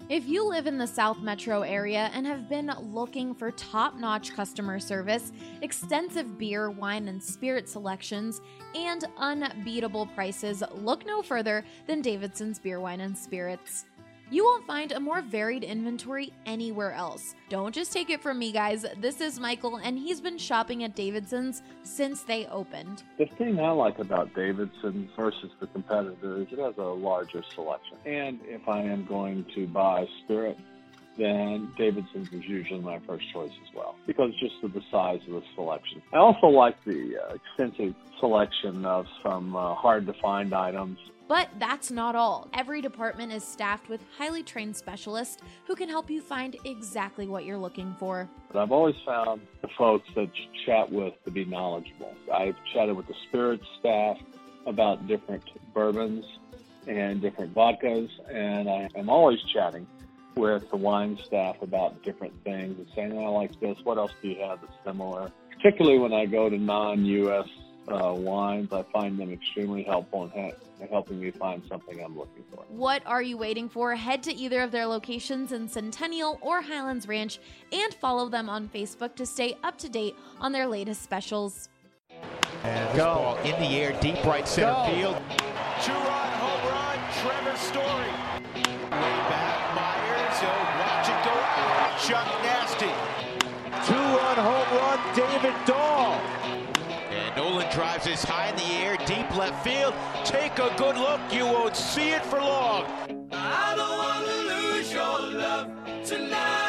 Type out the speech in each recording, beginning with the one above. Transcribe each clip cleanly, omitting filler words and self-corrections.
If you live in the South Metro area and have been looking for top-notch customer service, extensive beer, wine, and spirit selections, and unbeatable prices, look no further than Davidson's Beer, Wine, and Spirits. You won't find a more varied inventory anywhere else. Don't just take it from me, guys. This is Michael, and he's been shopping at Davidson's since they opened. The thing I like about Davidson's versus the competitor is it has a larger selection. And if I am going to buy spirit, then Davidson's is usually my first choice as well, because just of the size of the selection. I also like the extensive selection of some hard-to-find items. But that's not all. Every department is staffed with highly trained specialists who can help you find exactly what you're looking for. But I've always found the folks that you chat with to be knowledgeable. I've chatted with the spirits staff about different bourbons and different vodkas, and I am always chatting with the wine staff about different things and saying, I like this, what else do you have that's similar? Particularly when I go to non-U.S. wines, I find them extremely helpful in helping me find something I'm looking for. What are you waiting for? Head to either of their locations in Centennial or Highlands Ranch and follow them on Facebook to stay up to date on their latest specials. And this ball in the air, deep right center field. Two-run home run, Trevor Story. Way back, Myers, watch it go out. Chuck Nasty. Two-run home run, David Dahl. And Nolan drives this high in the air, deep left field. Take a good look, you won't see it for long. I don't want to lose your love tonight.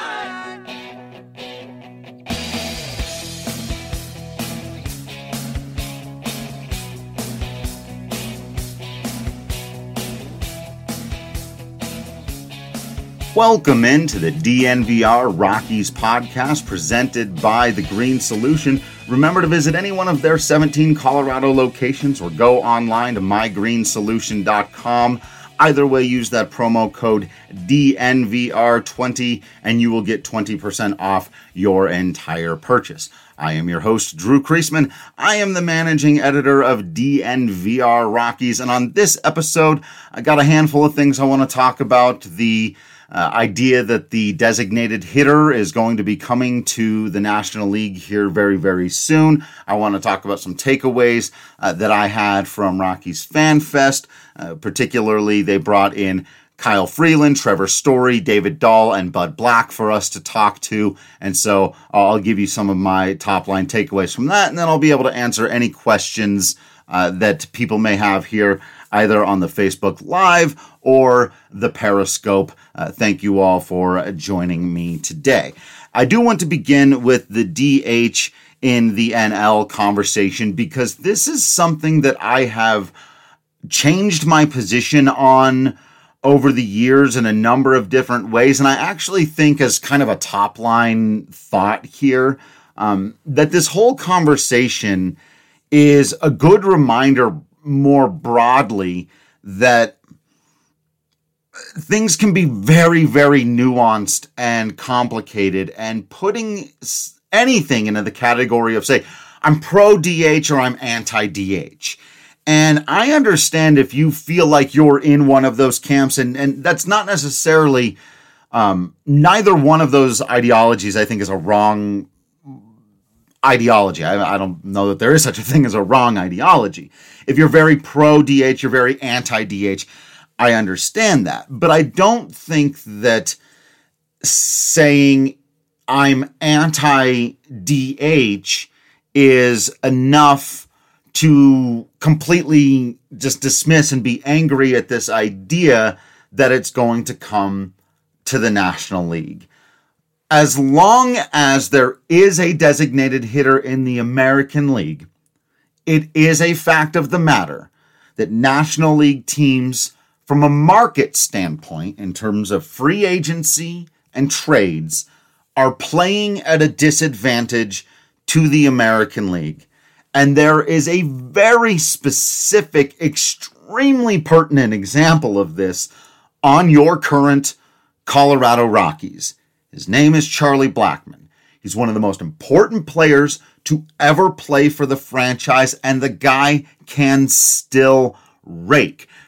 Welcome into the DNVR Rockies podcast presented by The Green Solution. Remember to visit any one of their 17 Colorado locations or go online to mygreensolution.com. Either way, use that promo code DNVR20 and you will get 20% off your entire purchase. I am your host, Drew Kreisman. I am the managing editor of DNVR Rockies, and on this episode, I got a handful of things I want to talk about. The idea that the designated hitter is going to be coming to the National League here very, very soon. I want to talk about some takeaways that I had from Rockies Fan Fest. Particularly, they brought in Kyle Freeland, Trevor Story, David Dahl, and Bud Black for us to talk to. And so I'll give you some of my top line takeaways from that, and then I'll be able to answer any questions that people may have here, either on the Facebook Live or the Periscope. Thank you all for joining me today. I do want to begin with the DH in the NL conversation, because this is something that I have changed my position on over the years in a number of different ways. And I actually think, as kind of a top line thought here, that this whole conversation is a good reminder more broadly that things can be very, very nuanced and complicated, and putting anything into the category of, say, I'm pro DH or I'm anti DH. And I understand if you feel like you're in one of those camps, and that's not necessarily, neither one of those ideologies, I think, is a wrong ideology. I don't know that there is such a thing as a wrong ideology. If you're very pro DH, you're very anti DH, I understand that. But I don't think that saying I'm anti DH is enough to completely just dismiss and be angry at this idea that it's going to come to the National League. As long as there is a designated hitter in the American League, it is a fact of the matter that National League teams, from a market standpoint, in terms of free agency and trades, are playing at a disadvantage to the American League. And there is a very specific, extremely pertinent example of this on your current Colorado Rockies. His name is Charlie Blackmon. He's one of the most important players to ever play for the franchise, and the guy can still rake.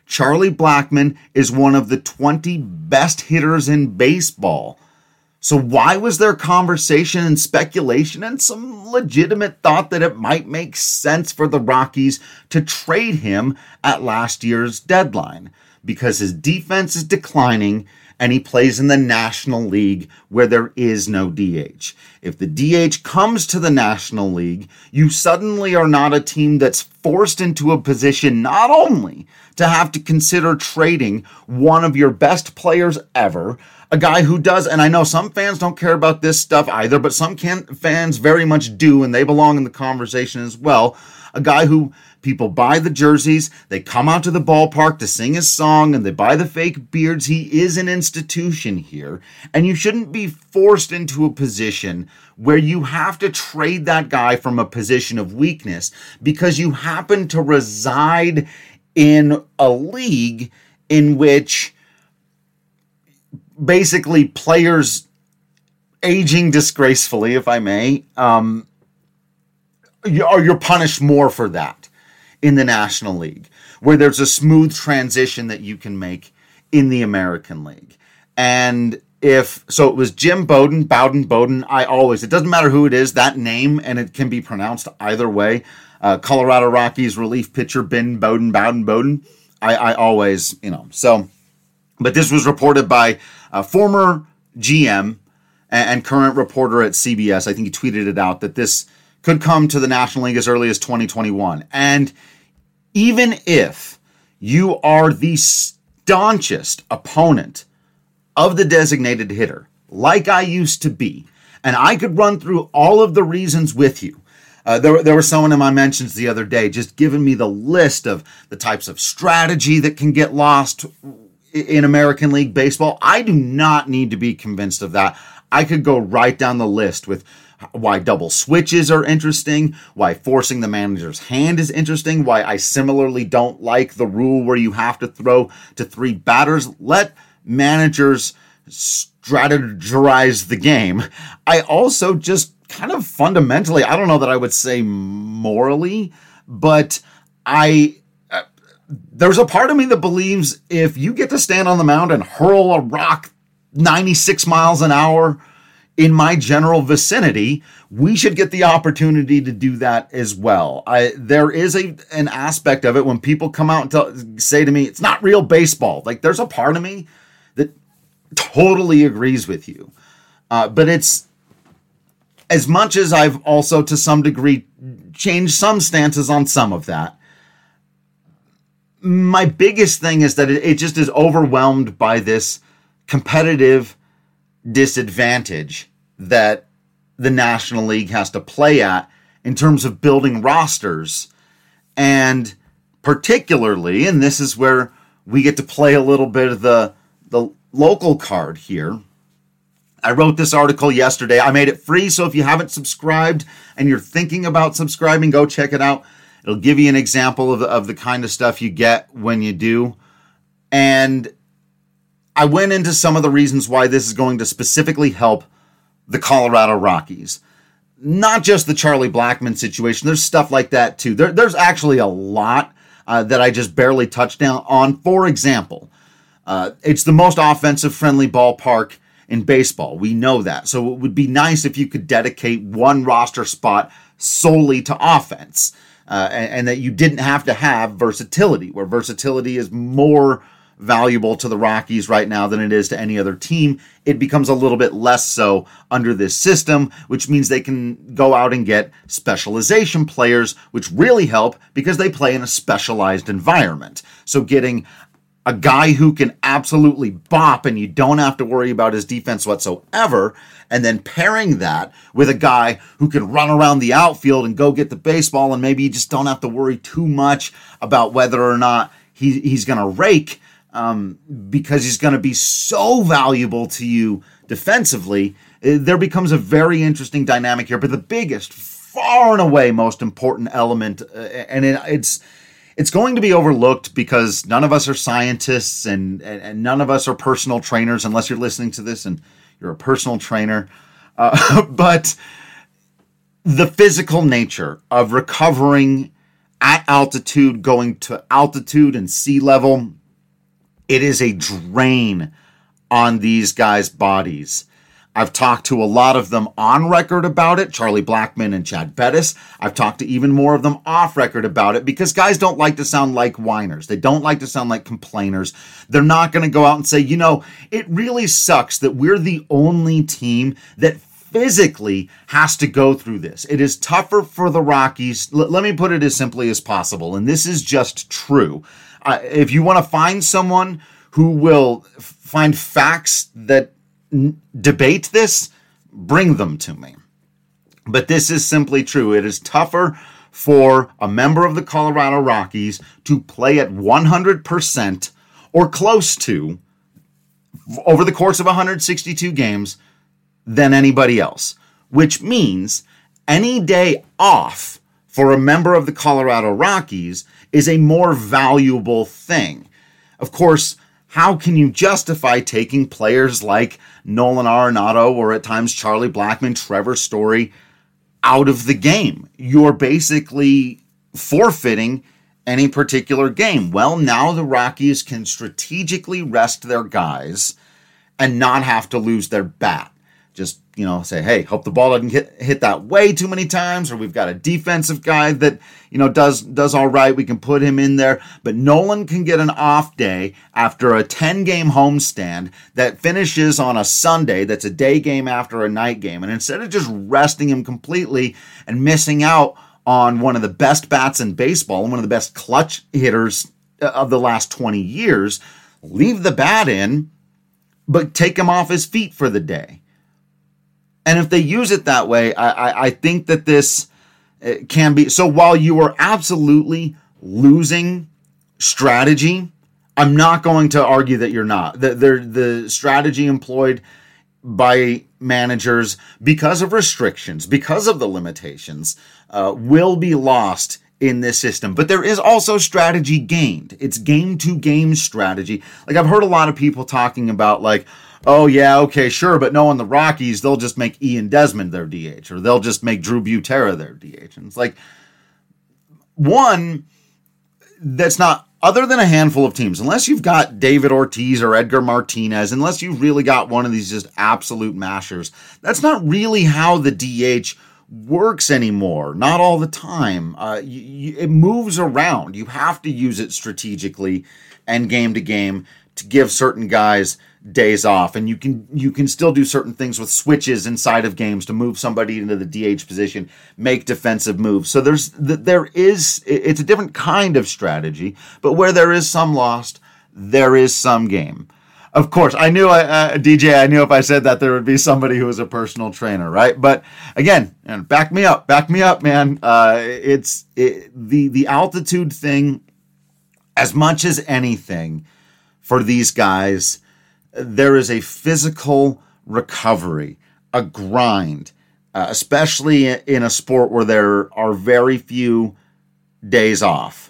Charlie Blackmon is one of the 20 best hitters in baseball. So why was there conversation and speculation and some legitimate thought that it might make sense for the Rockies to trade him at last year's deadline? Because his defense is declining and he plays in the National League where there is no DH. If the DH comes to the National League, you suddenly are not a team that's forced into a position not only to have to consider trading one of your best players ever, a guy who does, and I know some fans don't care about this stuff either, but some fans very much do, and they belong in the conversation as well, a guy who people buy the jerseys, they come out to the ballpark to sing his song, and they buy the fake beards. He is an institution here, and you shouldn't be forced into a position where you have to trade that guy from a position of weakness because you happen to reside in a league in which basically players aging disgracefully, if I may, you're punished more for that in the National League, where there's a smooth transition that you can make in the American League. And it was Jim Bowden, it doesn't matter who it is, that name, and it can be pronounced either way. Colorado Rockies relief pitcher Ben Bowden. I always, so, but this was reported by a former GM and current reporter at CBS. I think he tweeted it out that this could come to the National League as early as 2021. And even if you are the staunchest opponent of the designated hitter, like I used to be, and I could run through all of the reasons with you. There was someone in my mentions the other day just giving me the list of the types of strategy that can get lost in American League Baseball. I do not need to be convinced of that. I could go right down the list with why double switches are interesting, why forcing the manager's hand is interesting, why I similarly don't like the rule where you have to throw to 3 batters. Let managers strategize the game. I also just kind of fundamentally, I don't know that I would say morally, but there's a part of me that believes if you get to stand on the mound and hurl a rock 96 miles an hour in my general vicinity, we should get the opportunity to do that as well. There is an aspect of it when people come out and say to me, it's not real baseball. Like, there's a part of me that totally agrees with you. But it's, as much as I've also to some degree changed some stances on some of that, my biggest thing is that it just is overwhelmed by this competitive disadvantage that the National League has to play at in terms of building rosters. And particularly, and this is where we get to play a little bit of the local card here. I wrote this article yesterday. I made it free, so if you haven't subscribed and you're thinking about subscribing, go check it out. It'll give you an example of the kind of stuff you get when you do. And I went into some of the reasons why this is going to specifically help the Colorado Rockies. Not just the Charlie Blackmon situation. There's stuff like that too. There's actually a lot that I just barely touched on. For example, it's the most offensive-friendly ballpark in baseball. We know that. So it would be nice if you could dedicate one roster spot solely to offense. And that you didn't have to have versatility, where versatility is more valuable to the Rockies right now than it is to any other team. It becomes a little bit less so under this system, which means they can go out and get specialization players, which really help because they play in a specialized environment. So getting a guy who can absolutely bop and you don't have to worry about his defense whatsoever, and then pairing that with a guy who can run around the outfield and go get the baseball, and maybe you just don't have to worry too much about whether or not he's going to rake, because he's going to be so valuable to you defensively. There becomes a very interesting dynamic here. But the biggest, far and away most important element, and it's going to be overlooked because none of us are scientists and none of us are personal trainers, unless you're listening to this and you're a personal trainer. But the physical nature of recovering at altitude, going to altitude and sea level It is a drain on these guys' bodies. I've talked to a lot of them on record about it, Charlie Blackmon and Chad Bettis. I've talked to even more of them off record about it because guys don't like to sound like whiners. They don't like to sound like complainers. They're not going to go out and say, it really sucks that we're the only team that physically has to go through this. It is tougher for the Rockies. Let me put it as simply as possible, and this is just true. If you want to find someone who will find facts that debate this, bring them to me. But this is simply true. It is tougher for a member of the Colorado Rockies to play at 100% or close to over the course of 162 games than anybody else, which means any day off for a member of the Colorado Rockies is a more valuable thing. Of course, how can you justify taking players like Nolan Arenado or at times Charlie Blackmon, Trevor Story out of the game? You're basically forfeiting any particular game. Well, now the Rockies can strategically rest their guys and not have to lose their bat. Just, say, hey, hope the ball doesn't hit that way too many times, or we've got a defensive guy that, does all right. We can put him in there. But Nolan can get an off day after a 10-game homestand that finishes on a Sunday that's a day game after a night game. And instead of just resting him completely and missing out on one of the best bats in baseball and one of the best clutch hitters of the last 20 years, leave the bat in, but take him off his feet for the day. And if they use it that way, I think that this can be. So while you are absolutely losing strategy, I'm not going to argue that you're not. The strategy employed by managers because of restrictions, because of the limitations, will be lost in this system. But there is also strategy gained. It's game-to-game strategy. Like, I've heard a lot of people talking about, like, oh, yeah, okay, sure, but no, in the Rockies, they'll just make Ian Desmond their DH, or they'll just make Drew Butera their DH. And it's like, one, that's not, other than a handful of teams, unless you've got David Ortiz or Edgar Martinez, unless you've really got one of these just absolute mashers, that's not really how the DH works anymore. Not all the time. It moves around. You have to use it strategically and game to game to give certain guys days off, and you can still do certain things with switches inside of games to move somebody into the DH position, make defensive moves. So it's a different kind of strategy, but where there is some lost, there is some game. Of course, I knew DJ, I knew if I said that there would be somebody who was a personal trainer, right? But again, back me up, man. The altitude thing, as much as anything, for these guys, there is a physical recovery, a grind, especially in a sport where there are very few days off.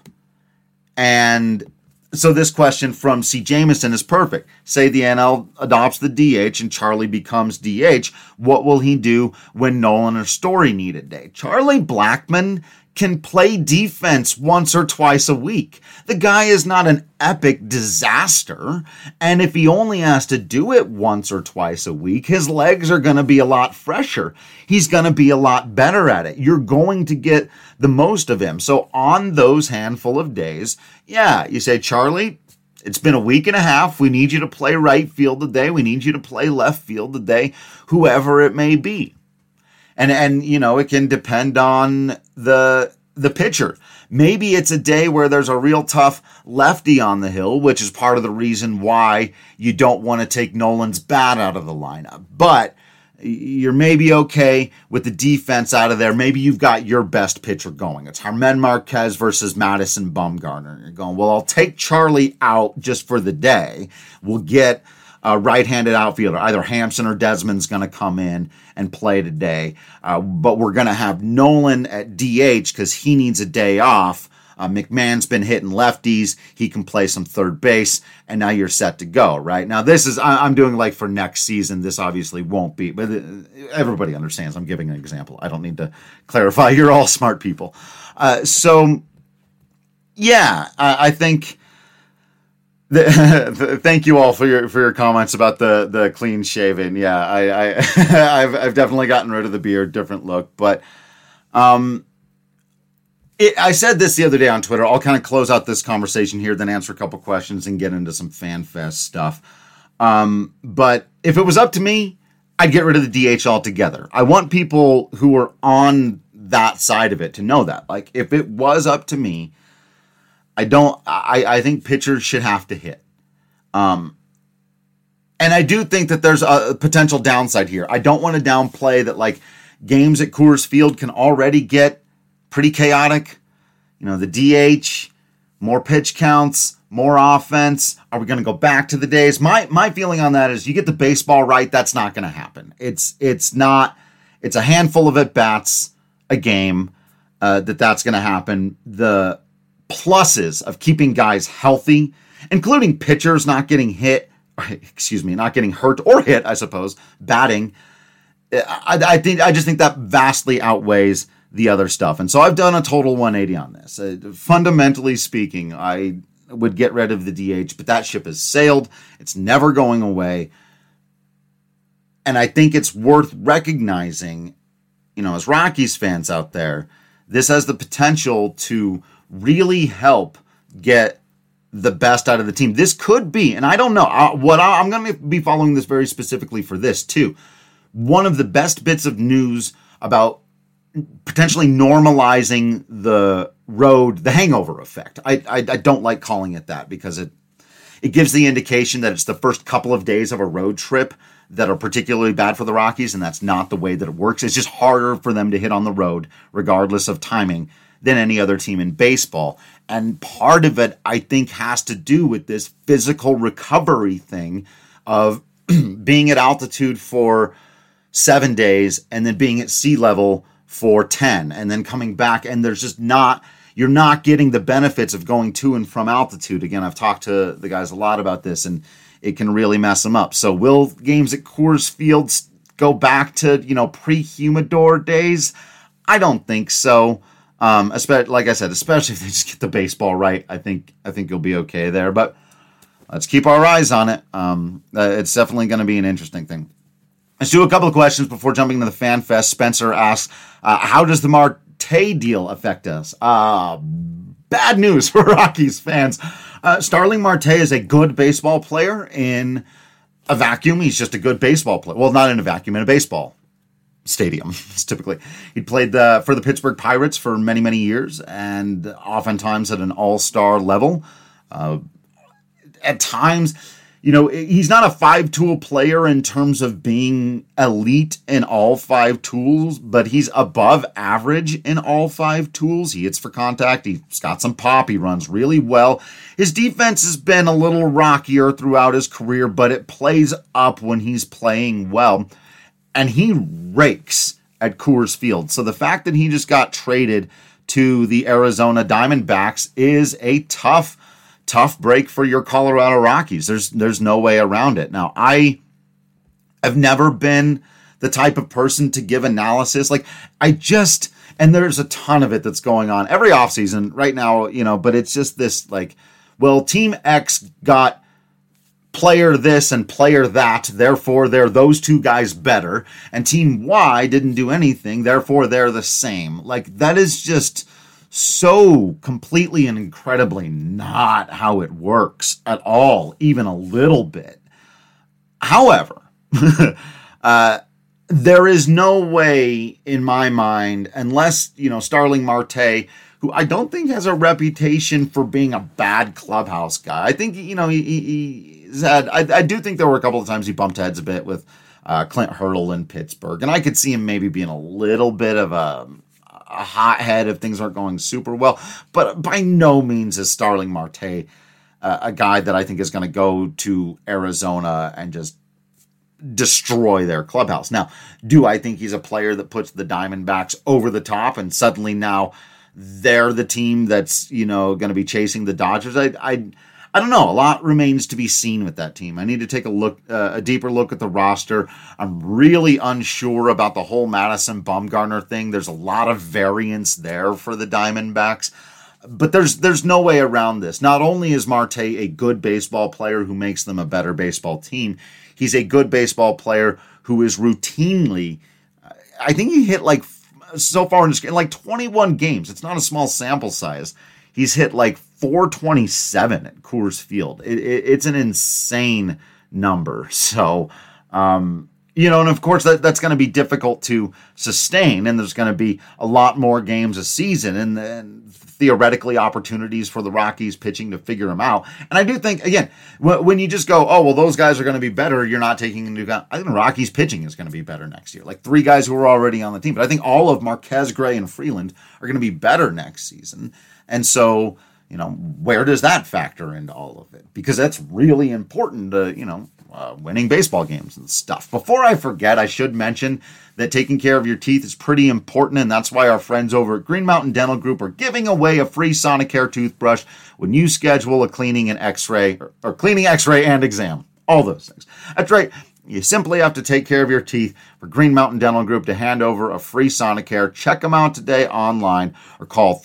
And so this question from C. Jameson is perfect. Say the NL adopts the DH and Charlie becomes DH. What will he do when Nolan or Story need a day? Charlie Blackmon can play defense once or twice a week. The guy is not an epic disaster, and if he only has to do it once or twice a week, his legs are going to be a lot fresher. He's going to be a lot better at it. You're going to get the most of him. So on those handful of days, yeah, you say, Charlie, it's been a week and a half. We need you to play right field today. We need you to play left field today, whoever it may be. And it can depend on the pitcher. Maybe it's a day where there's a real tough lefty on the hill, which is part of the reason why you don't want to take Nolan's bat out of the lineup. But you're maybe okay with the defense out of there. Maybe you've got your best pitcher going. It's Germán Marquez versus Madison Bumgarner. You're going, well, I'll take Charlie out just for the day. We'll get a right-handed outfielder. Either Hampson or Desmond's going to come in and play today. But we're going to have Nolan at DH because he needs a day off. McMahon's been hitting lefties. He can play some third base, and now you're set to go, right? Now, this is, I'm doing like for next season. This obviously won't be, but everybody understands. I'm giving an example. I don't need to clarify. You're all smart people. I think Thank you all for your comments about the clean shaven. Yeah, I've definitely gotten rid of the beard, different look. But I said this the other day on Twitter. I'll kind of close out this conversation here, then answer a couple questions and get into some FanFest stuff. But if it was up to me, I'd get rid of the DH altogether. I want people who are on that side of it to know that. Like, if it was up to me, I think pitchers should have to hit. And I do think that there's a potential downside here. I don't want to downplay that, like, games at Coors Field can already get pretty chaotic. You know, the DH, more pitch counts, more offense. Are we going to go back to the days? My feeling on that is you get the baseball right, that's not going to happen. It's a handful of at-bats a game that's going to happen. The pluses of keeping guys healthy, including pitchers not getting hurt or hit, I suppose, batting. I just think that vastly outweighs the other stuff. And so I've done a total 180 on this. Fundamentally speaking, I would get rid of the DH, but that ship has sailed. It's never going away. And I think it's worth recognizing, you know, as Rockies fans out there, this has the potential to really help get the best out of the team. This could be, and I don't know, I'm going to be following this very specifically for this too, one of the best bits of news about potentially normalizing the road, the hangover effect. I don't like calling it that because it gives the indication that it's the first couple of days of a road trip that are particularly bad for the Rockies, and that's not the way that it works. It's just harder for them to hit on the road, regardless of timing, than any other team in baseball. And part of it, I think, has to do with this physical recovery thing of being at altitude for 7 days and then being at sea level for 10 and then coming back. And there's just you're not getting the benefits of going to and from altitude. Again, I've talked to the guys a lot about this, and it can really mess them up. So will games at Coors Field go back to, pre-humidor days? I don't think so. Especially, like I said, especially if they just get the baseball right, I think you'll be okay there. But let's keep our eyes on it. It's definitely going to be an interesting thing. Let's do a couple of questions before jumping into the FanFest. Spencer asks, how does the Marte deal affect us? Bad news for Rockies fans. Starling Marte is a good baseball player in a vacuum. He's just a good baseball player. Well, not in a vacuum, in a baseball stadium. Typically, he played for the Pittsburgh Pirates for many, many years, and oftentimes at an all-star level. At times, he's not a five-tool player in terms of being elite in all five tools, but he's above average in all five tools. He hits for contact. He's got some pop. He runs really well. His defense has been a little rockier throughout his career, but it plays up when he's playing well. And he rakes at Coors Field. So the fact that he just got traded to the Arizona Diamondbacks is a tough break for your Colorado Rockies. There's no way around it. Now, I have never been the type of person to give analysis. And there's a ton of it that's going on every offseason right now, but it's just this Team X got player this and player that, therefore they're those two guys better, and Team Y didn't do anything, therefore they're the same. That is just so completely and incredibly not how it works at all, even a little bit. However, there is no way in my mind, unless, Starling Marte, who I don't think has a reputation for being a bad clubhouse guy. I think, he's had, I do think there were a couple of times he bumped heads a bit with Clint Hurdle in Pittsburgh, and I could see him maybe being a little bit of a hothead if things aren't going super well, but by no means is Starling Marte a guy that I think is going to go to Arizona and just destroy their clubhouse. Now, do I think he's a player that puts the Diamondbacks over the top and suddenly now they're the team that's, going to be chasing the Dodgers? I don't know. A lot remains to be seen with that team. I need to take a deeper look at the roster. I'm really unsure about the whole Madison Bumgarner thing. There's a lot of variance there for the Diamondbacks. But there's no way around this. Not only is Marte a good baseball player who makes them a better baseball team, he's a good baseball player who is routinely, I think he hit like, so far in 21 games. It's not a small sample size. He's hit like 427 at Coors Field. It's an insane number. So, and of course that's going to be difficult to sustain, and there's going to be a lot more games a season, and then theoretically opportunities for the Rockies pitching to figure them out. And I do think, again, when you just go, oh, well, those guys are going to be better, you're not taking into account, I think the Rockies pitching is going to be better next year. Like 3 guys who are already on the team. But I think all of Marquez, Gray, and Freeland are going to be better next season. And so, where does that factor into all of it? Because that's really important to, winning baseball games and stuff. Before I forget, I should mention that taking care of your teeth is pretty important, and that's why our friends over at Green Mountain Dental Group are giving away a free Sonicare toothbrush when you schedule a cleaning and x-ray, or cleaning, x-ray, and exam. All those things. That's right. You simply have to take care of your teeth for Green Mountain Dental Group to hand over a free Sonicare. Check them out today online or call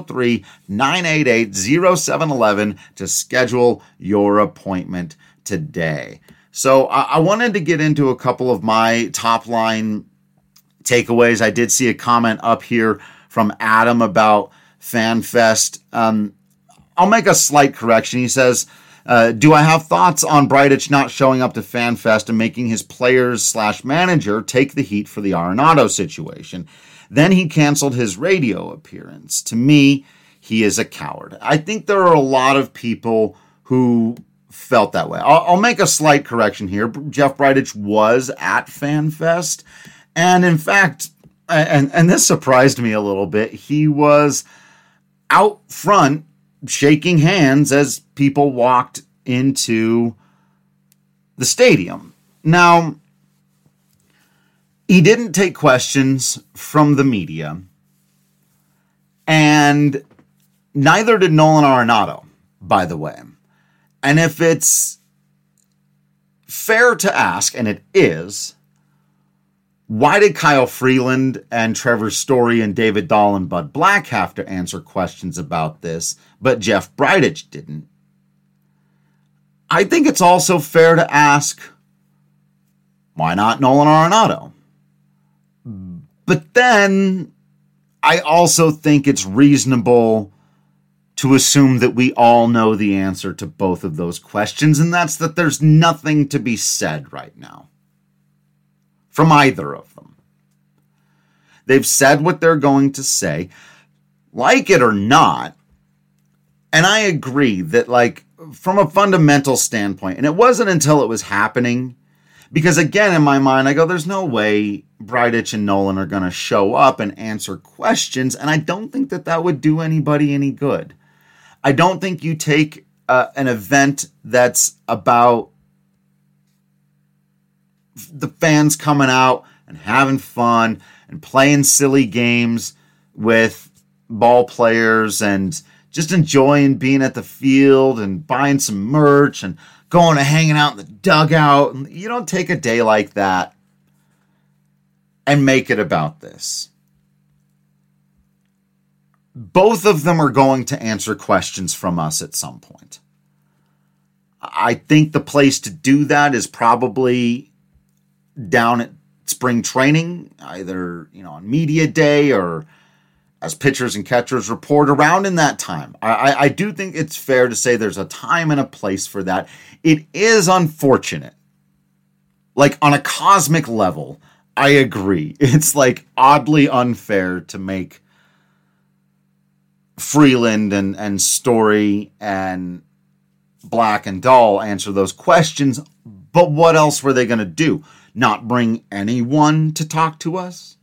303-988-0711 to schedule your appointment today. So I wanted to get into a couple of my top line takeaways. I did see a comment up here from Adam about FanFest. I'll make a slight correction. He says, do I have thoughts on Bridich not showing up to FanFest and making his players/manager take the heat for the Arenado situation? Then he canceled his radio appearance. To me, he is a coward. I think there are a lot of people who felt that way. I'll make a slight correction here. Jeff Bridich was at FanFest. And in fact, and this surprised me a little bit, he was out front shaking hands as people walked into the stadium. Now, he didn't take questions from the media, and neither did Nolan Arenado, by the way. And if it's fair to ask, and it is, why did Kyle Freeland and Trevor Story and David Dahl and Bud Black have to answer questions about this, but Jeff Bridich didn't? I think it's also fair to ask, why not Nolan Arenado? But then I also think it's reasonable to assume that we all know the answer to both of those questions, and that's that there's nothing to be said right now from either of them. They've said what they're going to say, like it or not. And I agree that, like, from a fundamental standpoint, and it wasn't until it was happening, because again, in my mind, I go, there's no way Bridich and Nolan are going to show up and answer questions, and I don't think that that would do anybody any good. I don't think you take an event that's about the fans coming out and having fun and playing silly games with ball players and just enjoying being at the field and buying some merch and going and hanging out in the dugout. And you don't take a day like that and make it about this. Both of them are going to answer questions from us at some point. I think the place to do that is probably down at spring training, either, on media day or as pitchers and catchers report around in that time. I do think it's fair to say there's a time and a place for that. It is unfortunate. Like, on a cosmic level, I agree. It's like oddly unfair to make Freeland and Story and Black and Dahl answer those questions. But what else were they going to do? Not bring anyone to talk to us?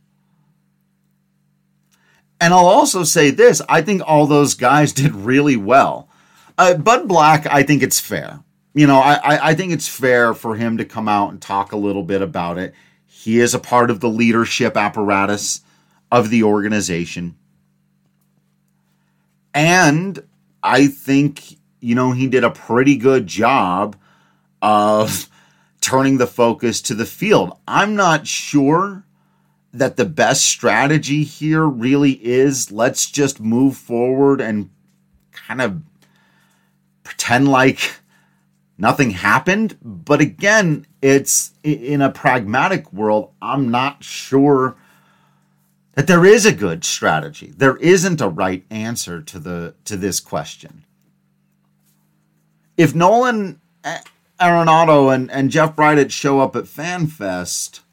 And I'll also say this. I think all those guys did really well. Bud Black, I think it's fair. I think it's fair for him to come out and talk a little bit about it. He is a part of the leadership apparatus of the organization. And I think, he did a pretty good job of turning the focus to the field. I'm not sure that the best strategy here really is let's just move forward and kind of pretend like nothing happened. But again, it's in a pragmatic world, I'm not sure that there is a good strategy. There isn't a right answer to this question. If Nolan Arenado and Jeff Bridich show up at FanFest,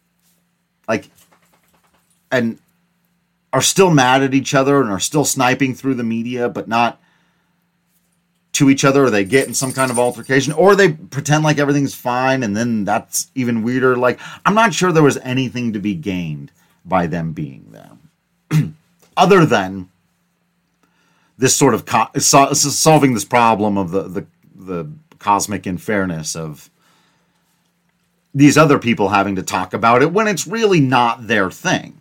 and are still mad at each other and are still sniping through the media, but not to each other, or they get in some kind of altercation, or they pretend like everything's fine, and then that's even weirder. I'm not sure there was anything to be gained by them being there, other than this sort of solving this problem of the cosmic unfairness of these other people having to talk about it when it's really not their thing.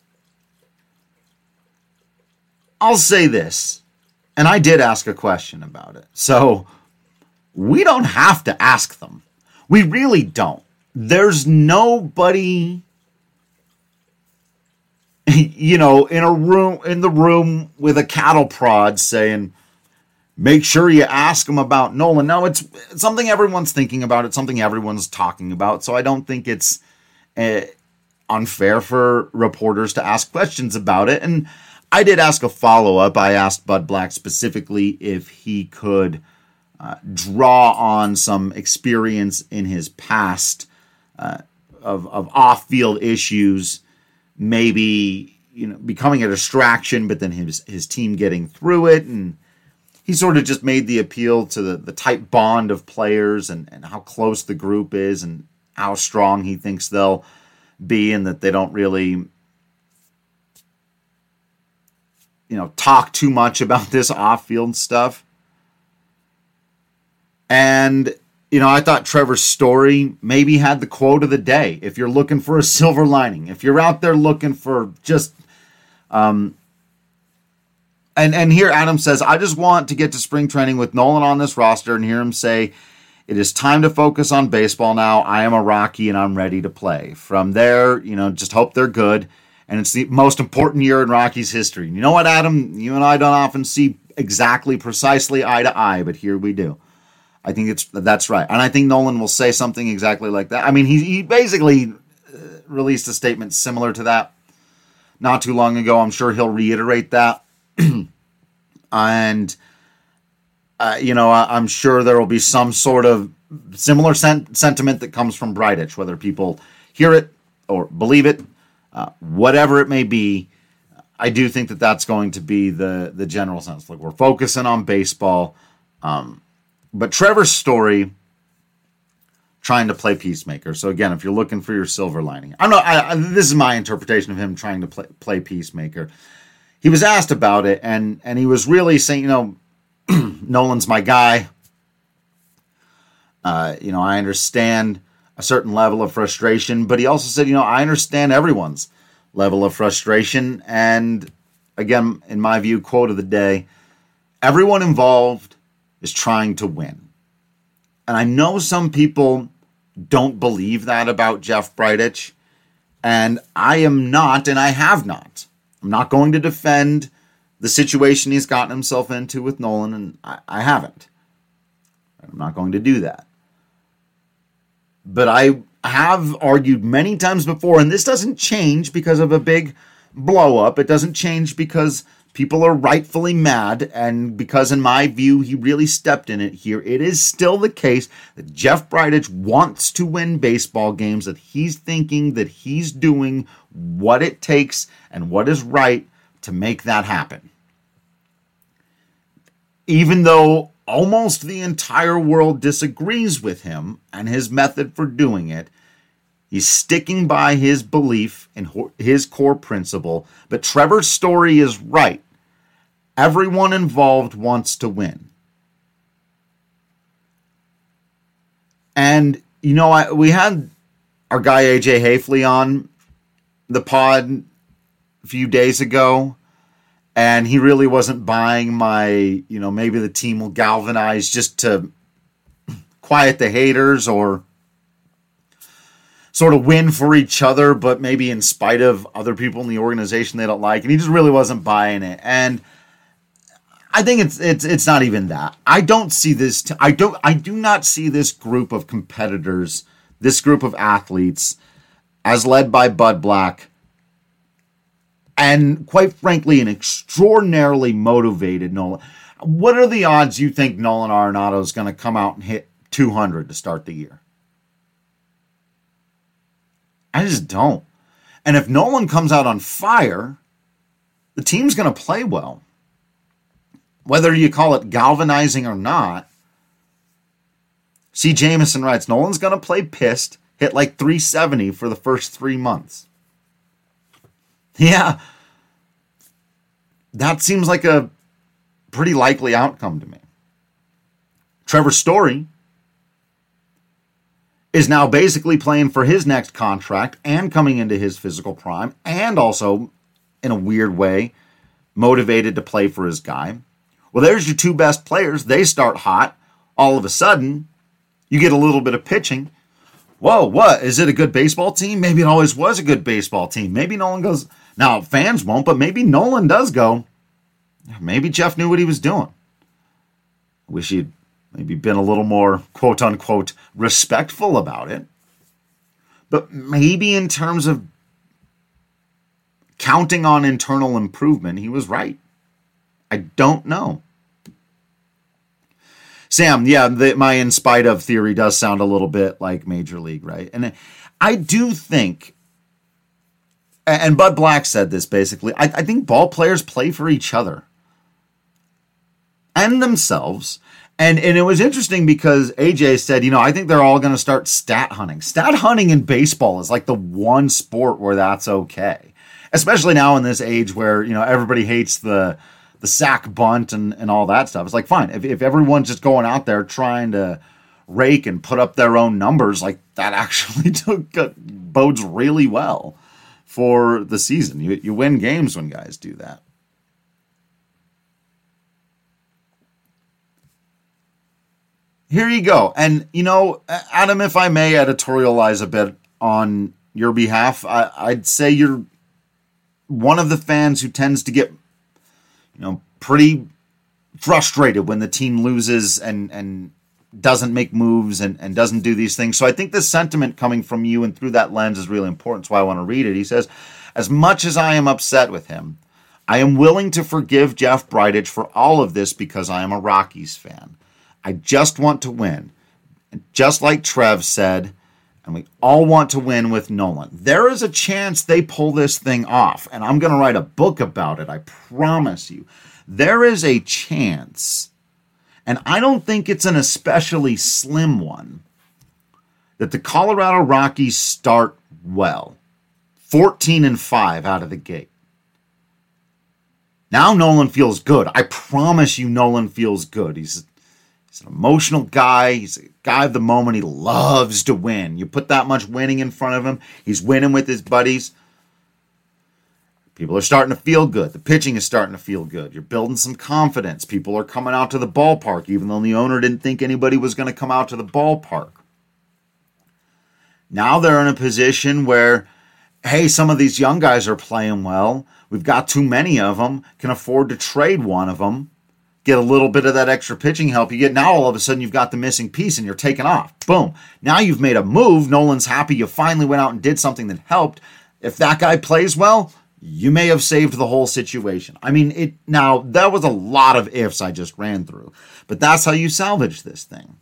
I'll say this, and I did ask a question about it, so we don't have to ask them. We really don't. There's nobody, in the room with a cattle prod saying, make sure you ask them about Nolan. No, it's something everyone's thinking about. It's something everyone's talking about. So I don't think it's unfair for reporters to ask questions about it. And I did ask a follow-up. I asked Bud Black specifically if he could draw on some experience in his past of off-field issues, maybe becoming a distraction, but then his team getting through it. And he sort of just made the appeal to the tight bond of players and how close the group is and how strong he thinks they'll be, and that they don't really talk too much about this off-field stuff. And, I thought Trevor Story maybe had the quote of the day. If you're looking for a silver lining, if you're out there looking for just, and here Adam says, I just want to get to spring training with Nolan on this roster and hear him say, it is time to focus on baseball now. I am a Rocky and I'm ready to play. From there, just hope they're good. And it's the most important year in Rockies history. You know what, Adam? You and I don't often see exactly precisely eye to eye, but here we do. I think that's right. And I think Nolan will say something exactly like that. I mean, he basically released a statement similar to that not too long ago. I'm sure he'll reiterate that. And, I'm sure there will be some sort of similar sentiment that comes from Bridich, whether people hear it or believe it. Whatever it may be, I do think that that's going to be the general sense. Like, we're focusing on baseball. But Trevor Story trying to play peacemaker. So again, if you're looking for your silver lining, this is my interpretation of him trying to play peacemaker. He was asked about it, and he was really saying, Nolan's my guy. I understand a certain level of frustration, but he also said, I understand everyone's level of frustration. And again, in my view, quote of the day, everyone involved is trying to win. And I know some people don't believe that about Jeff Bridich, and I am not, and I have not. I'm not going to defend the situation he's gotten himself into with Nolan, and I haven't. I'm not going to do that. But I have argued many times before, and this doesn't change because of a big blow-up. It doesn't change because people are rightfully mad, and because, in my view, he really stepped in it here. It is still the case that Jeff Bridich wants to win baseball games, that he's thinking that he's doing what it takes and what is right to make that happen. Even though almost the entire world disagrees with him and his method for doing it, he's sticking by his belief in his core principle. But Trevor's Story is right. Everyone involved wants to win. And, we had our guy AJ Hafley on the pod a few days ago, and he really wasn't buying my, maybe the team will galvanize just to quiet the haters or sort of win for each other, but maybe in spite of other people in the organization they don't like. And he just really wasn't buying it. And I think it's not even that. I don't see this. I do not see this group of competitors, this group of athletes, as led by Bud Black, and quite frankly, an extraordinarily motivated Nolan. What are the odds you think Nolan Arenado is going to come out and hit 200 to start the year? I just don't. And if Nolan comes out on fire, the team's going to play well. Whether you call it galvanizing or not, C. Jameson writes, Nolan's going to play pissed, hit like 370 for the first 3 months. Yeah, that seems like a pretty likely outcome to me. Trevor Story is now basically playing for his next contract and coming into his physical prime, and also, in a weird way, motivated to play for his guy. Well, there's your two best players. They start hot. All of a sudden, you get a little bit of pitching. Whoa, what? Is it a good baseball team? Maybe it always was a good baseball team. Maybe Nolan goes, now fans won't, but maybe Nolan does go, maybe Jeff knew what he was doing. Wish he'd maybe been a little more, quote unquote, respectful about it. But maybe in terms of counting on internal improvement, he was right. I don't know. Sam, yeah, my in spite of theory does sound a little bit like Major League, right? And I do think, and Bud Black said this basically, I think ball players play for each other and themselves. And it was interesting because AJ said, I think they're all going to start stat hunting. Stat hunting in baseball is like the one sport where that's okay. Especially now in this age where, everybody hates the sack bunt and all that stuff. It's like, fine, if everyone's just going out there trying to rake and put up their own numbers, like that actually bodes really well for the season. You win games when guys do that. Here you go. And, Adam, if I may editorialize a bit on your behalf, I'd say you're one of the fans who tends to get pretty frustrated when the team loses and doesn't make moves and doesn't do these things. So I think the sentiment coming from you and through that lens is really important. That's why I want to read it. He says, as much as I am upset with him, I am willing to forgive Jeff Bridich for all of this because I am a Rockies fan. I just want to win. And just like Trev said, and we all want to win with Nolan. There is a chance they pull this thing off, and I'm going to write a book about it, I promise you. There is a chance, and I don't think it's an especially slim one, that the Colorado Rockies start well. 14-5 out of the gate. Now Nolan feels good. I promise you Nolan feels good. He's an emotional guy. He's a guy of the moment. He loves to win. You put that much winning in front of him, he's winning with his buddies. People are starting to feel good. The pitching is starting to feel good. You're building some confidence. People are coming out to the ballpark, even though the owner didn't think anybody was going to come out to the ballpark. Now they're in a position where, hey, some of these young guys are playing well. We've got too many of them. Can afford to trade one of them. Get a little bit of that extra pitching help you get. Now all of a sudden you've got the missing piece and you're taking off. Boom. Now you've made a move. Nolan's happy. You finally went out and did something that helped. If that guy plays well, you may have saved the whole situation. I mean, now that was a lot of ifs I just ran through, but that's how you salvage this thing.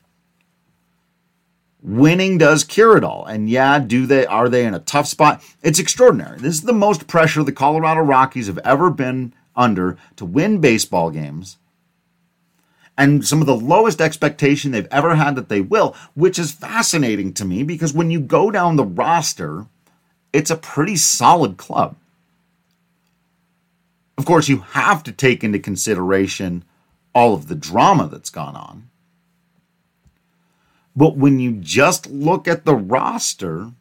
Winning does cure it all. And yeah, are they in a tough spot? It's extraordinary. This is the most pressure the Colorado Rockies have ever been under to win baseball games. And some of the lowest expectation they've ever had that they will, which is fascinating to me because when you go down the roster, it's a pretty solid club. Of course, you have to take into consideration all of the drama that's gone on. But when you just look at the roster,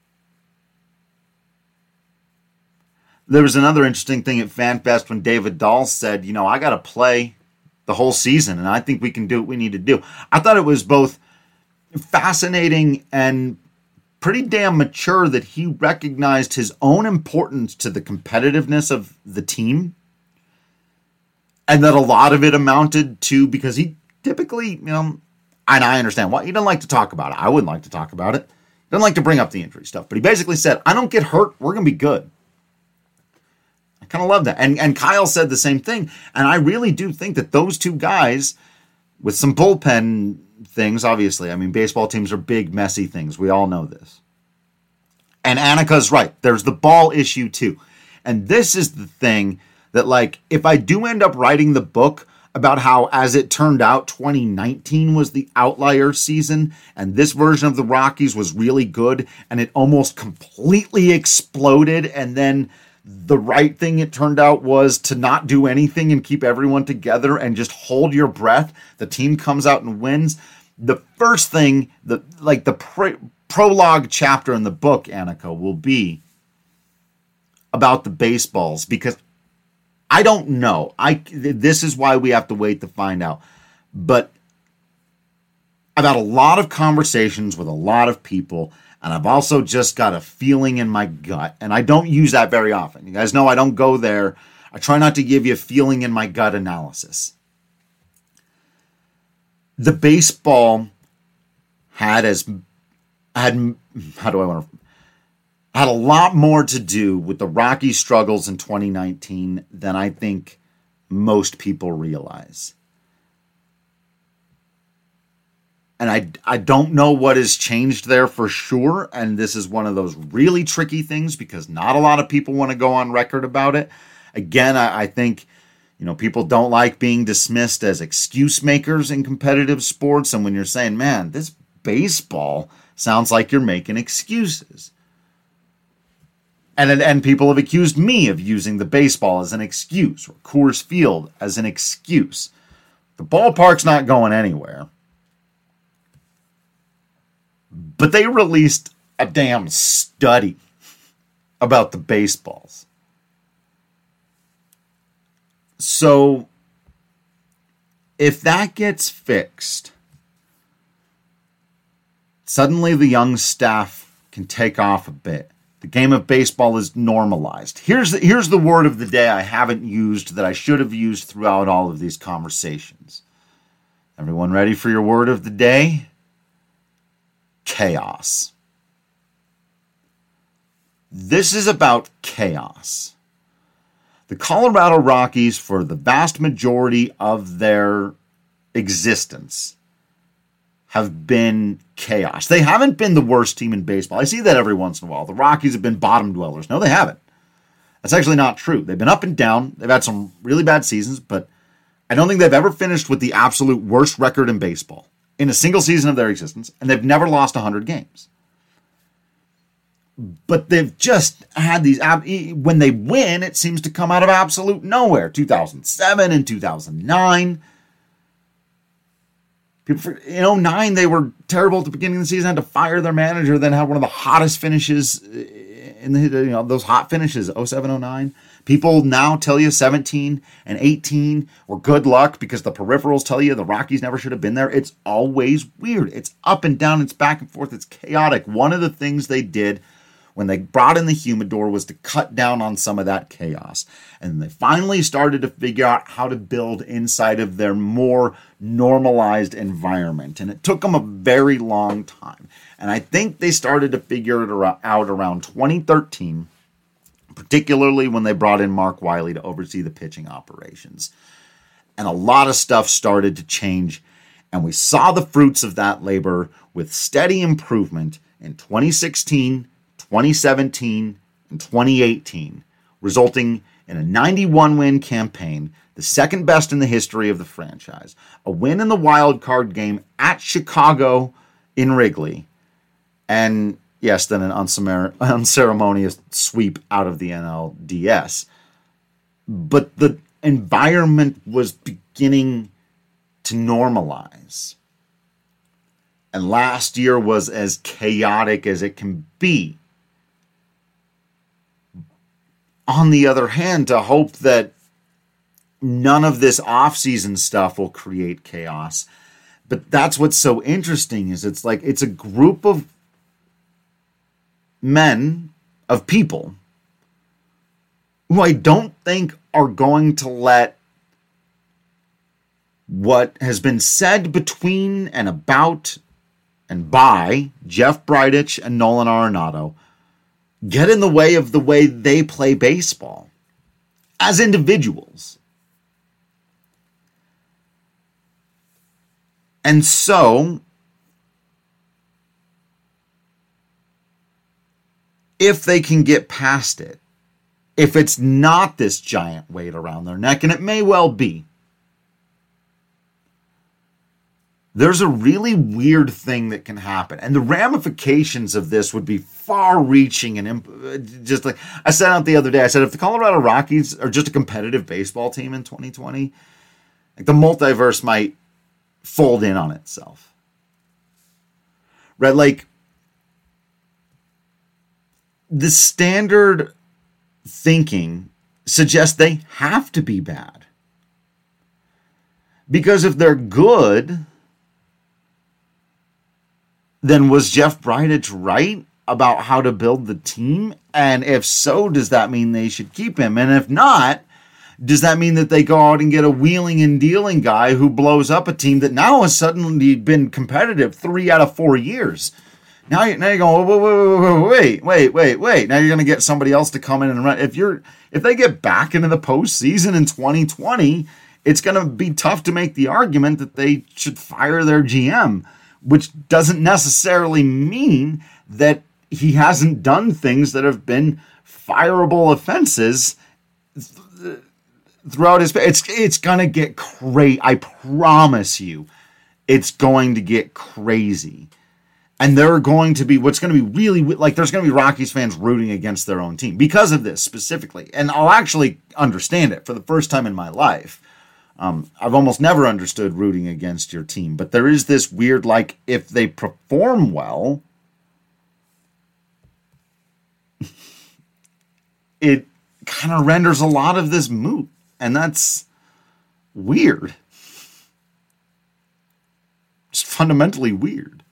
there was another interesting thing at FanFest when David Dahl said, I got to play the whole season, and I think we can do what we need to do. I thought it was both fascinating and pretty damn mature that he recognized his own importance to the competitiveness of the team And that a lot of it amounted to, because he typically, and I understand why, he doesn't like to talk about it. I wouldn't like to talk about it. He doesn't like to bring up the injury stuff. But he basically said, I don't get hurt, we're going to be good. I kind of love that. And Kyle said the same thing. And I really do think that those two guys, with some bullpen things, obviously, I mean, baseball teams are big, messy things. We all know this. And Annika's right. There's the ball issue too. And this is the thing that, like, if I do end up writing the book about how, as it turned out, 2019 was the outlier season, and this version of the Rockies was really good, and it almost completely exploded, and then the right thing it turned out was to not do anything and keep everyone together and just hold your breath. The team comes out and wins. The first thing, the prologue chapter in the book, Annika, will be about the baseballs, because I don't know. This is why we have to wait to find out. But I've had a lot of conversations with a lot of people, and I've also just got a feeling in my gut, and I don't use that very often. You guys know I don't go there. I try not to give you a feeling in my gut analysis. The baseball had a lot more to do with the Rockies' struggles in 2019 than I think most people realize. And I don't know what has changed there for sure, and this is one of those really tricky things because not a lot of people want to go on record about it. Again, I think, people don't like being dismissed as excuse makers in competitive sports, and when you're saying, man, this baseball sounds like you're making excuses. And people have accused me of using the baseball as an excuse, or Coors Field as an excuse. The ballpark's not going anywhere. But they released a damn study about the baseballs. So, if that gets fixed, suddenly the young staff can take off a bit. The game of baseball is normalized. Here's the word of the day I haven't used that I should have used throughout all of these conversations. Everyone ready for your word of the day? Chaos. This is about chaos. The Colorado Rockies, for the vast majority of their existence, have been chaos. They haven't been the worst team in baseball. I see that every once in a while. The Rockies have been bottom dwellers. No, they haven't. That's actually not true. They've been up and down. They've had some really bad seasons, but I don't think they've ever finished with the absolute worst record in baseball in a single season of their existence, and they've never lost 100 games. But they've just had these, when they win, it seems to come out of absolute nowhere. 2007 and 2009. In 2009, they were terrible at the beginning of the season, had to fire their manager, then had one of the hottest finishes in those hot finishes, 07, 09. People now tell you 17 and 18 were good luck because the peripherals tell you the Rockies never should have been there. It's always weird. It's up and down. It's back and forth. It's chaotic. One of the things they did when they brought in the humidor was to cut down on some of that chaos. And they finally started to figure out how to build inside of their more normalized environment. And it took them a very long time. And I think they started to figure it out around 2013, particularly when they brought in Mark Wiley to oversee the pitching operations. And a lot of stuff started to change. And we saw the fruits of that labor with steady improvement in 2016, 2017, and 2018, resulting in a 91-win campaign, the second best in the history of the franchise, a win in the wild card game at Chicago in Wrigley, and yes, then an unceremonious sweep out of the NLDS. But the environment was beginning to normalize. And last year was as chaotic as it can be. On the other hand, to hope that none of this off-season stuff will create chaos. But that's what's so interesting is it's like it's a group of men, of people, who I don't think are going to let what has been said between and about and by Jeff Bridich and Nolan Arenado get in the way of the way they play baseball as individuals. And so, if they can get past it, if it's not this giant weight around their neck, and it may well be, there's a really weird thing that can happen. And the ramifications of this would be far-reaching and just like I said out the other day, I said if the Colorado Rockies are just a competitive baseball team in 2020, like the multiverse might fold in on itself. Right? Like the standard thinking suggests they have to be bad. Because if they're good, then was Jeff Bridich right about how to build the team? And if so, does that mean they should keep him? And if not, does that mean that they go out and get a wheeling and dealing guy who blows up a team that now has suddenly been competitive 3 out of 4 years? Now you're going, wait. Now you're going to get somebody else to come in and run. If they get back into the postseason in 2020, it's going to be tough to make the argument that they should fire their GM, which doesn't necessarily mean that he hasn't done things that have been fireable offenses throughout his. It's going to get crazy. I promise you, it's going to get crazy. And there are going to be, what's going to be really, like, there's going to be Rockies fans rooting against their own team because of this specifically. And I'll actually understand it for the first time in my life. I've almost never understood rooting against your team, but there is this weird, like, if they perform well, it kind of renders a lot of this moot, and that's weird. Just fundamentally weird.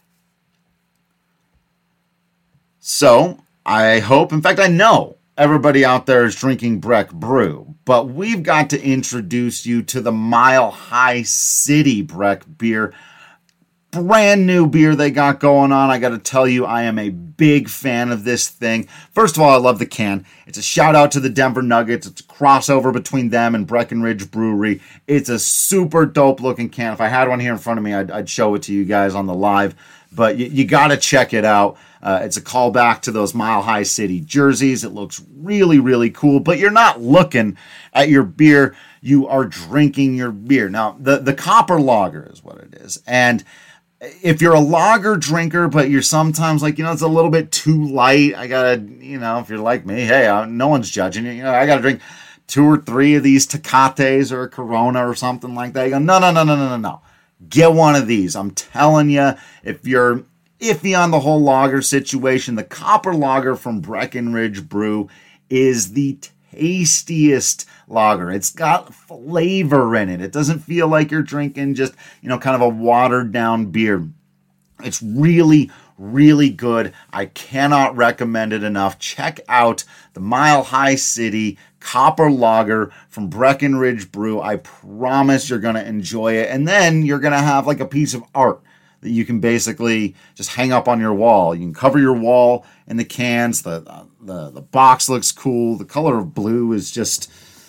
So, I hope, in fact, I know everybody out there is drinking Breck Brew, but we've got to introduce you to the Mile High City Breck beer. Brand new beer they got going on. I got to tell you, I am a big fan of this thing. First of all, I love the can. It's a shout out to the Denver Nuggets. It's a crossover between them and Breckenridge Brewery. It's a super dope looking can. If I had one here in front of me, I'd show it to you guys on the live, but you got to check it out. It's a callback to those Mile High City jerseys. It looks really, really cool, but you're not looking at your beer. You are drinking your beer. Now, the Copper Lager is what it is. And if you're a lager drinker, but you're sometimes like, it's a little bit too light, I gotta, if you're like me, hey, no one's judging you. I gotta drink 2 or 3 of these Tecates or a Corona or something like that. You go, no. Get one of these. I'm telling you, if you're iffy on the whole lager situation, the Copper Lager from Breckenridge Brew is the tastiest lager. It's got flavor in it. It doesn't feel like you're drinking just, kind of a watered down beer. It's really, really good. I cannot recommend it enough. Check out the Mile High City Copper Lager from Breckenridge Brew. I promise you're going to enjoy it. And then you're going to have like a piece of art that you can basically just hang up on your wall. You can cover your wall in the cans. The box looks cool. The color of blue is just,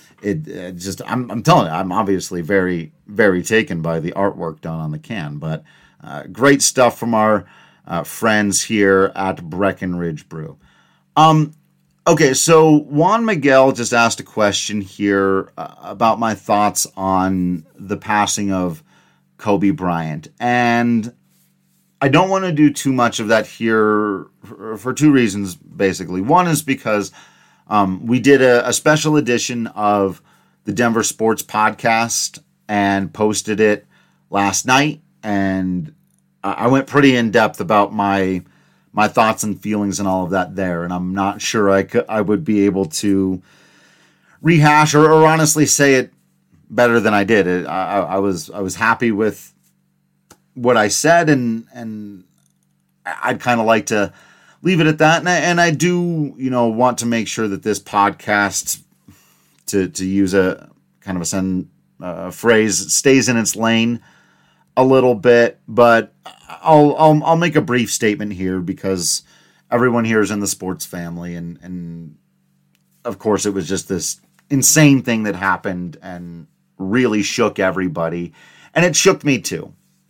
I'm telling you, I'm obviously very, very taken by the artwork done on the can. But great stuff from our friends here at Breckenridge Brew. Okay, so Juan Miguel just asked a question here about my thoughts on the passing of Kobe Bryant. And I don't want to do too much of that here for 2 reasons, basically. One is because we did a special edition of the Denver Sports Podcast and posted it last night. And I went pretty in depth about my thoughts and feelings and all of that there. And I'm not sure I would be able to rehash or honestly say it better than I did. I was happy with what I said, and I'd kind of like to leave it at that. And I do, want to make sure that this podcast, to use a kind of a phrase stays in its lane a little bit, but I'll make a brief statement here because everyone here is in the sports family, and of course it was just this insane thing that happened and really shook everybody, and it shook me too.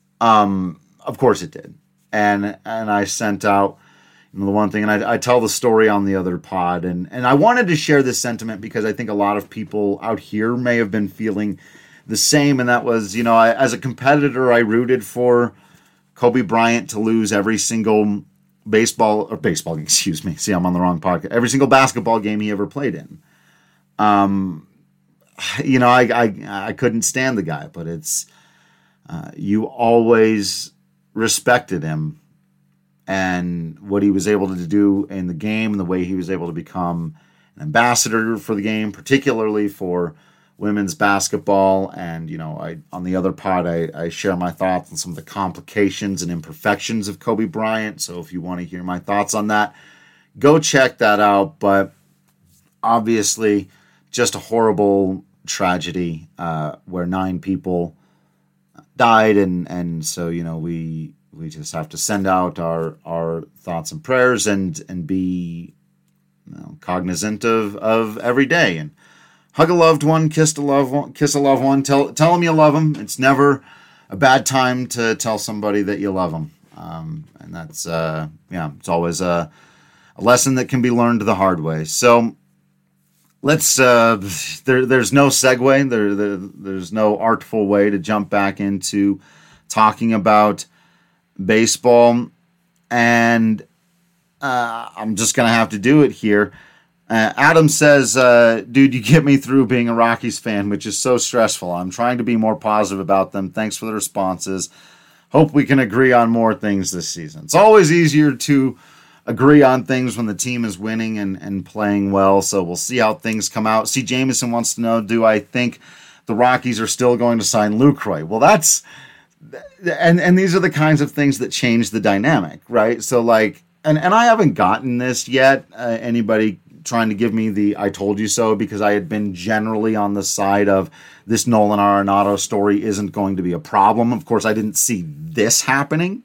Of course it did, and I sent out the one thing, and I tell the story on the other pod, and I wanted to share this sentiment because I think a lot of people out here may have been feeling the same, and that was, as a competitor, I rooted for Kobe Bryant to lose every single baseball, excuse me. See, I'm on the wrong podcast. Every single basketball game he ever played in. I couldn't stand the guy, but it's, you always respected him and what he was able to do in the game and the way he was able to become an ambassador for the game, particularly for women's basketball. And, on the other pod, I share my thoughts on some of the complications and imperfections of Kobe Bryant. So if you want to hear my thoughts on that, go check that out. But obviously, just a horrible tragedy where 9 people died. And so, we just have to send out our thoughts and prayers and be cognizant of every day. And hug a loved one, kiss a loved one, tell them you love them. It's never a bad time to tell somebody that you love them. And that's, it's always a lesson that can be learned the hard way. So let's, there's no segue. There's no artful way to jump back into talking about baseball. And I'm just going to have to do it here. Adam says, dude, you get me through being a Rockies fan, which is so stressful. I'm trying to be more positive about them. Thanks for the responses. Hope we can agree on more things this season. It's always easier to agree on things when the team is winning and playing well, so we'll see how things come out. C. Jameson wants to know, do I think the Rockies are still going to sign Lucroy? Well, that's... And these are the kinds of things that change the dynamic, right? So, and I haven't gotten this yet, anybody trying to give me the I told you so, because I had been generally on the side of this Nolan Arenado story isn't going to be a problem. Of course, I didn't see this happening.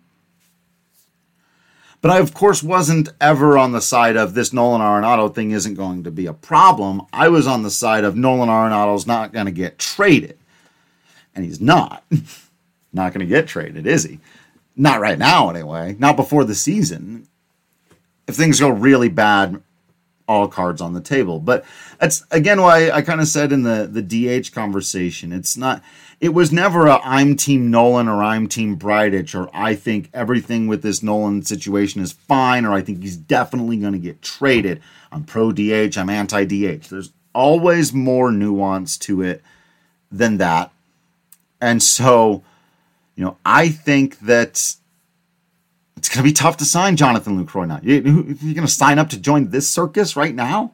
But I, of course, wasn't ever on the side of this Nolan Arenado thing isn't going to be a problem. I was on the side of Nolan Arenado's not going to get traded. And he's not. Not going to get traded, is he? Not right now, anyway. Not before the season. If things go really bad, all cards on the table. But that's, again, why I kind of said in the DH conversation, it was never a I'm Team Nolan or I'm Team Bridich or I think everything with this Nolan situation is fine or I think he's definitely going to get traded. I'm pro DH, I'm anti DH. There's always more nuance to it than that. And so, I think that it's going to be tough to sign Jonathan Lucroy now. You're going to sign up to join this circus right now?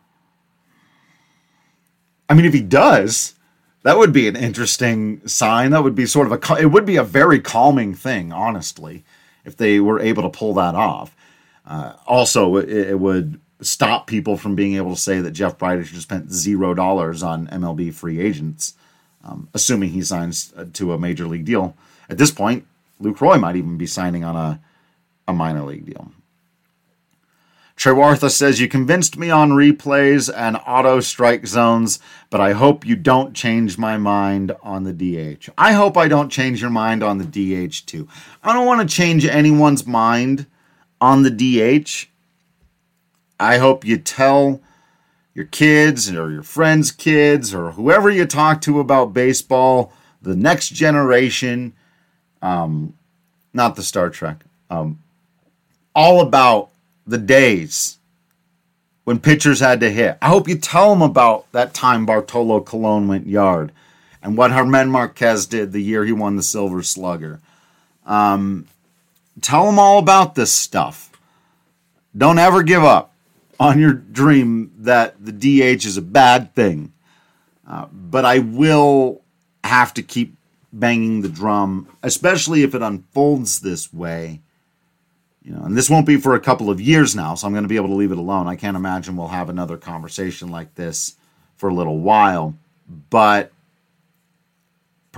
I mean, if he does, that would be an interesting sign. That would be it would be a very calming thing, honestly, if they were able to pull that off. Also, it would stop people from being able to say that Jeff Bridich just spent $0 on MLB free agents, assuming he signs to a major league deal. At this point, Lucroy might even be signing on a minor league deal. Trewartha says, you convinced me on replays and auto strike zones, but I hope you don't change my mind on the DH. I hope I don't change your mind on the DH too. I don't want to change anyone's mind on the DH. I hope you tell your kids or your friends' kids or whoever you talk to about baseball, the next generation, not the Star Trek, all about the days when pitchers had to hit. I hope you tell them about that time Bartolo Colon went yard and what Germán Márquez did the year he won the Silver Slugger. Tell them all about this stuff. Don't ever give up on your dream that the DH is a bad thing. But I will have to keep banging the drum, especially if it unfolds this way. And this won't be for a couple of years now, so I'm going to be able to leave it alone. I can't imagine we'll have another conversation like this for a little while. But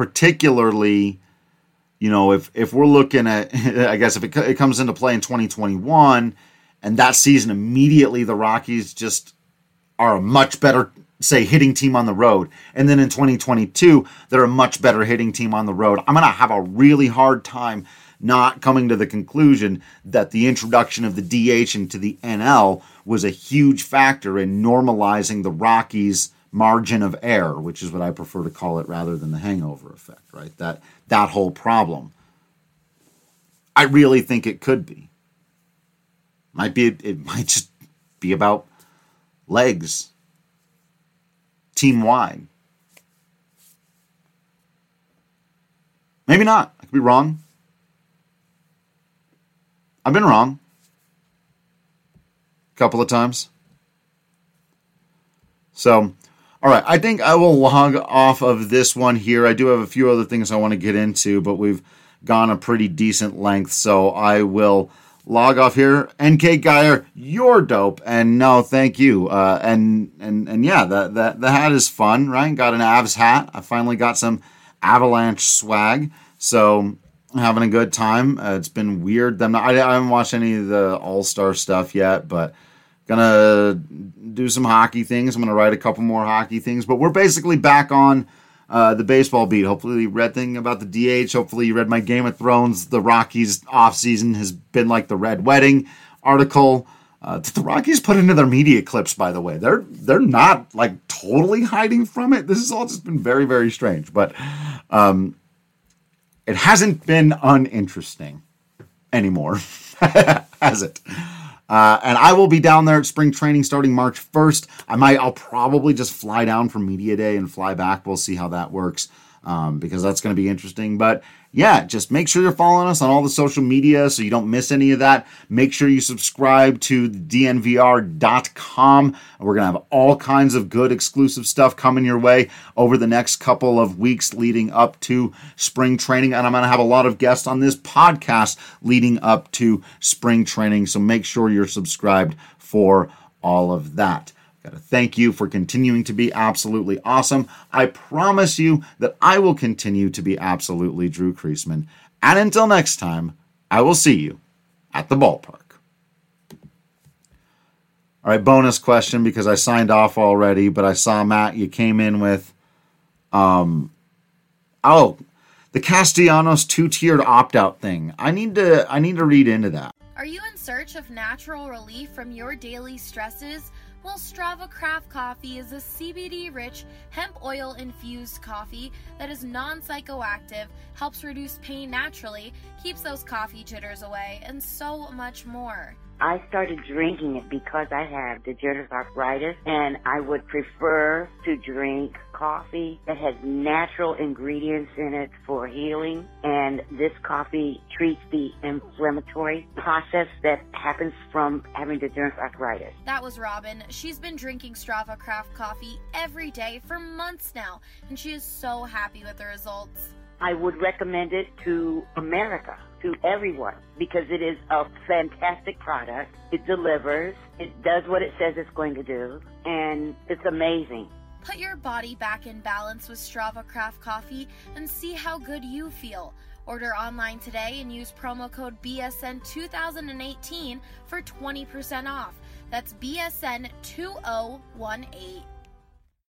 particularly, if we're looking at, I guess if it comes into play in 2021, and that season immediately the Rockies just are a much better, say, hitting team on the road, and then in 2022 they're a much better hitting team on the road, I'm going to have a really hard time not coming to the conclusion that the introduction of the DH into the NL was a huge factor in normalizing the Rockies' margin of error, which is what I prefer to call it rather than the hangover effect, right? That whole problem. I really think it could be. It might just be about legs, team-wide. Maybe not. I could be wrong. I've been wrong a couple of times. So, all right, I think I will log off of this one here. I do have a few other things I want to get into, but we've gone a pretty decent length, so I will log off here. NK Geyer, you're dope, and no, thank you. And yeah, the hat is fun, right? Got an Avs hat. I finally got some Avalanche swag, so I'm having a good time. It's been weird. I haven't watched any of the All-Star stuff yet, but gonna do some hockey things. I'm gonna write a couple more hockey things, but we're basically back on the baseball beat. Hopefully you read thing about the DH. Hopefully you read my Game of Thrones. The Rockies offseason has been like the Red Wedding article. The Rockies put into their media clips, by the way. They're not like totally hiding from it. This has all just been very, very strange, but it hasn't been uninteresting anymore, has it? And I will be down there at spring training starting March 1st. I'll probably just fly down for media day and fly back. We'll see how that works, because that's going to be interesting. But yeah, just make sure you're following us on all the social media so you don't miss any of that. Make sure you subscribe to dnvr.com. We're going to have all kinds of good exclusive stuff coming your way over the next couple of weeks leading up to spring training. And I'm going to have a lot of guests on this podcast leading up to spring training. So make sure you're subscribed for all of that. Got to thank you for continuing to be absolutely awesome. I promise you that I will continue to be absolutely Drew Creasman. And until next time, I will see you at the ballpark. All right, bonus question, because I signed off already, but I saw, Matt, you came in with, the Castellanos 2-tiered opt-out thing. I need to read into that. Are you in search of natural relief from your daily stresses? Well, Strava Craft Coffee is a CBD-rich, hemp oil-infused coffee that is non-psychoactive, helps reduce pain naturally, keeps those coffee jitters away, and so much more. I started drinking it because I have degenerative arthritis, and I would prefer to drink coffee that has natural ingredients in it for healing, and this coffee treats the inflammatory process that happens from having degenerative arthritis. That was Robin. She's been drinking Strava Craft Coffee every day for months now, and she is so happy with the results. I would recommend it to America, to everyone, because it is a fantastic product. It delivers. It does what it says it's going to do, and it's amazing. Put your body back in balance with Strava Craft Coffee and see how good you feel. Order online today and use promo code BSN2018 for 20% off. That's BSN2018.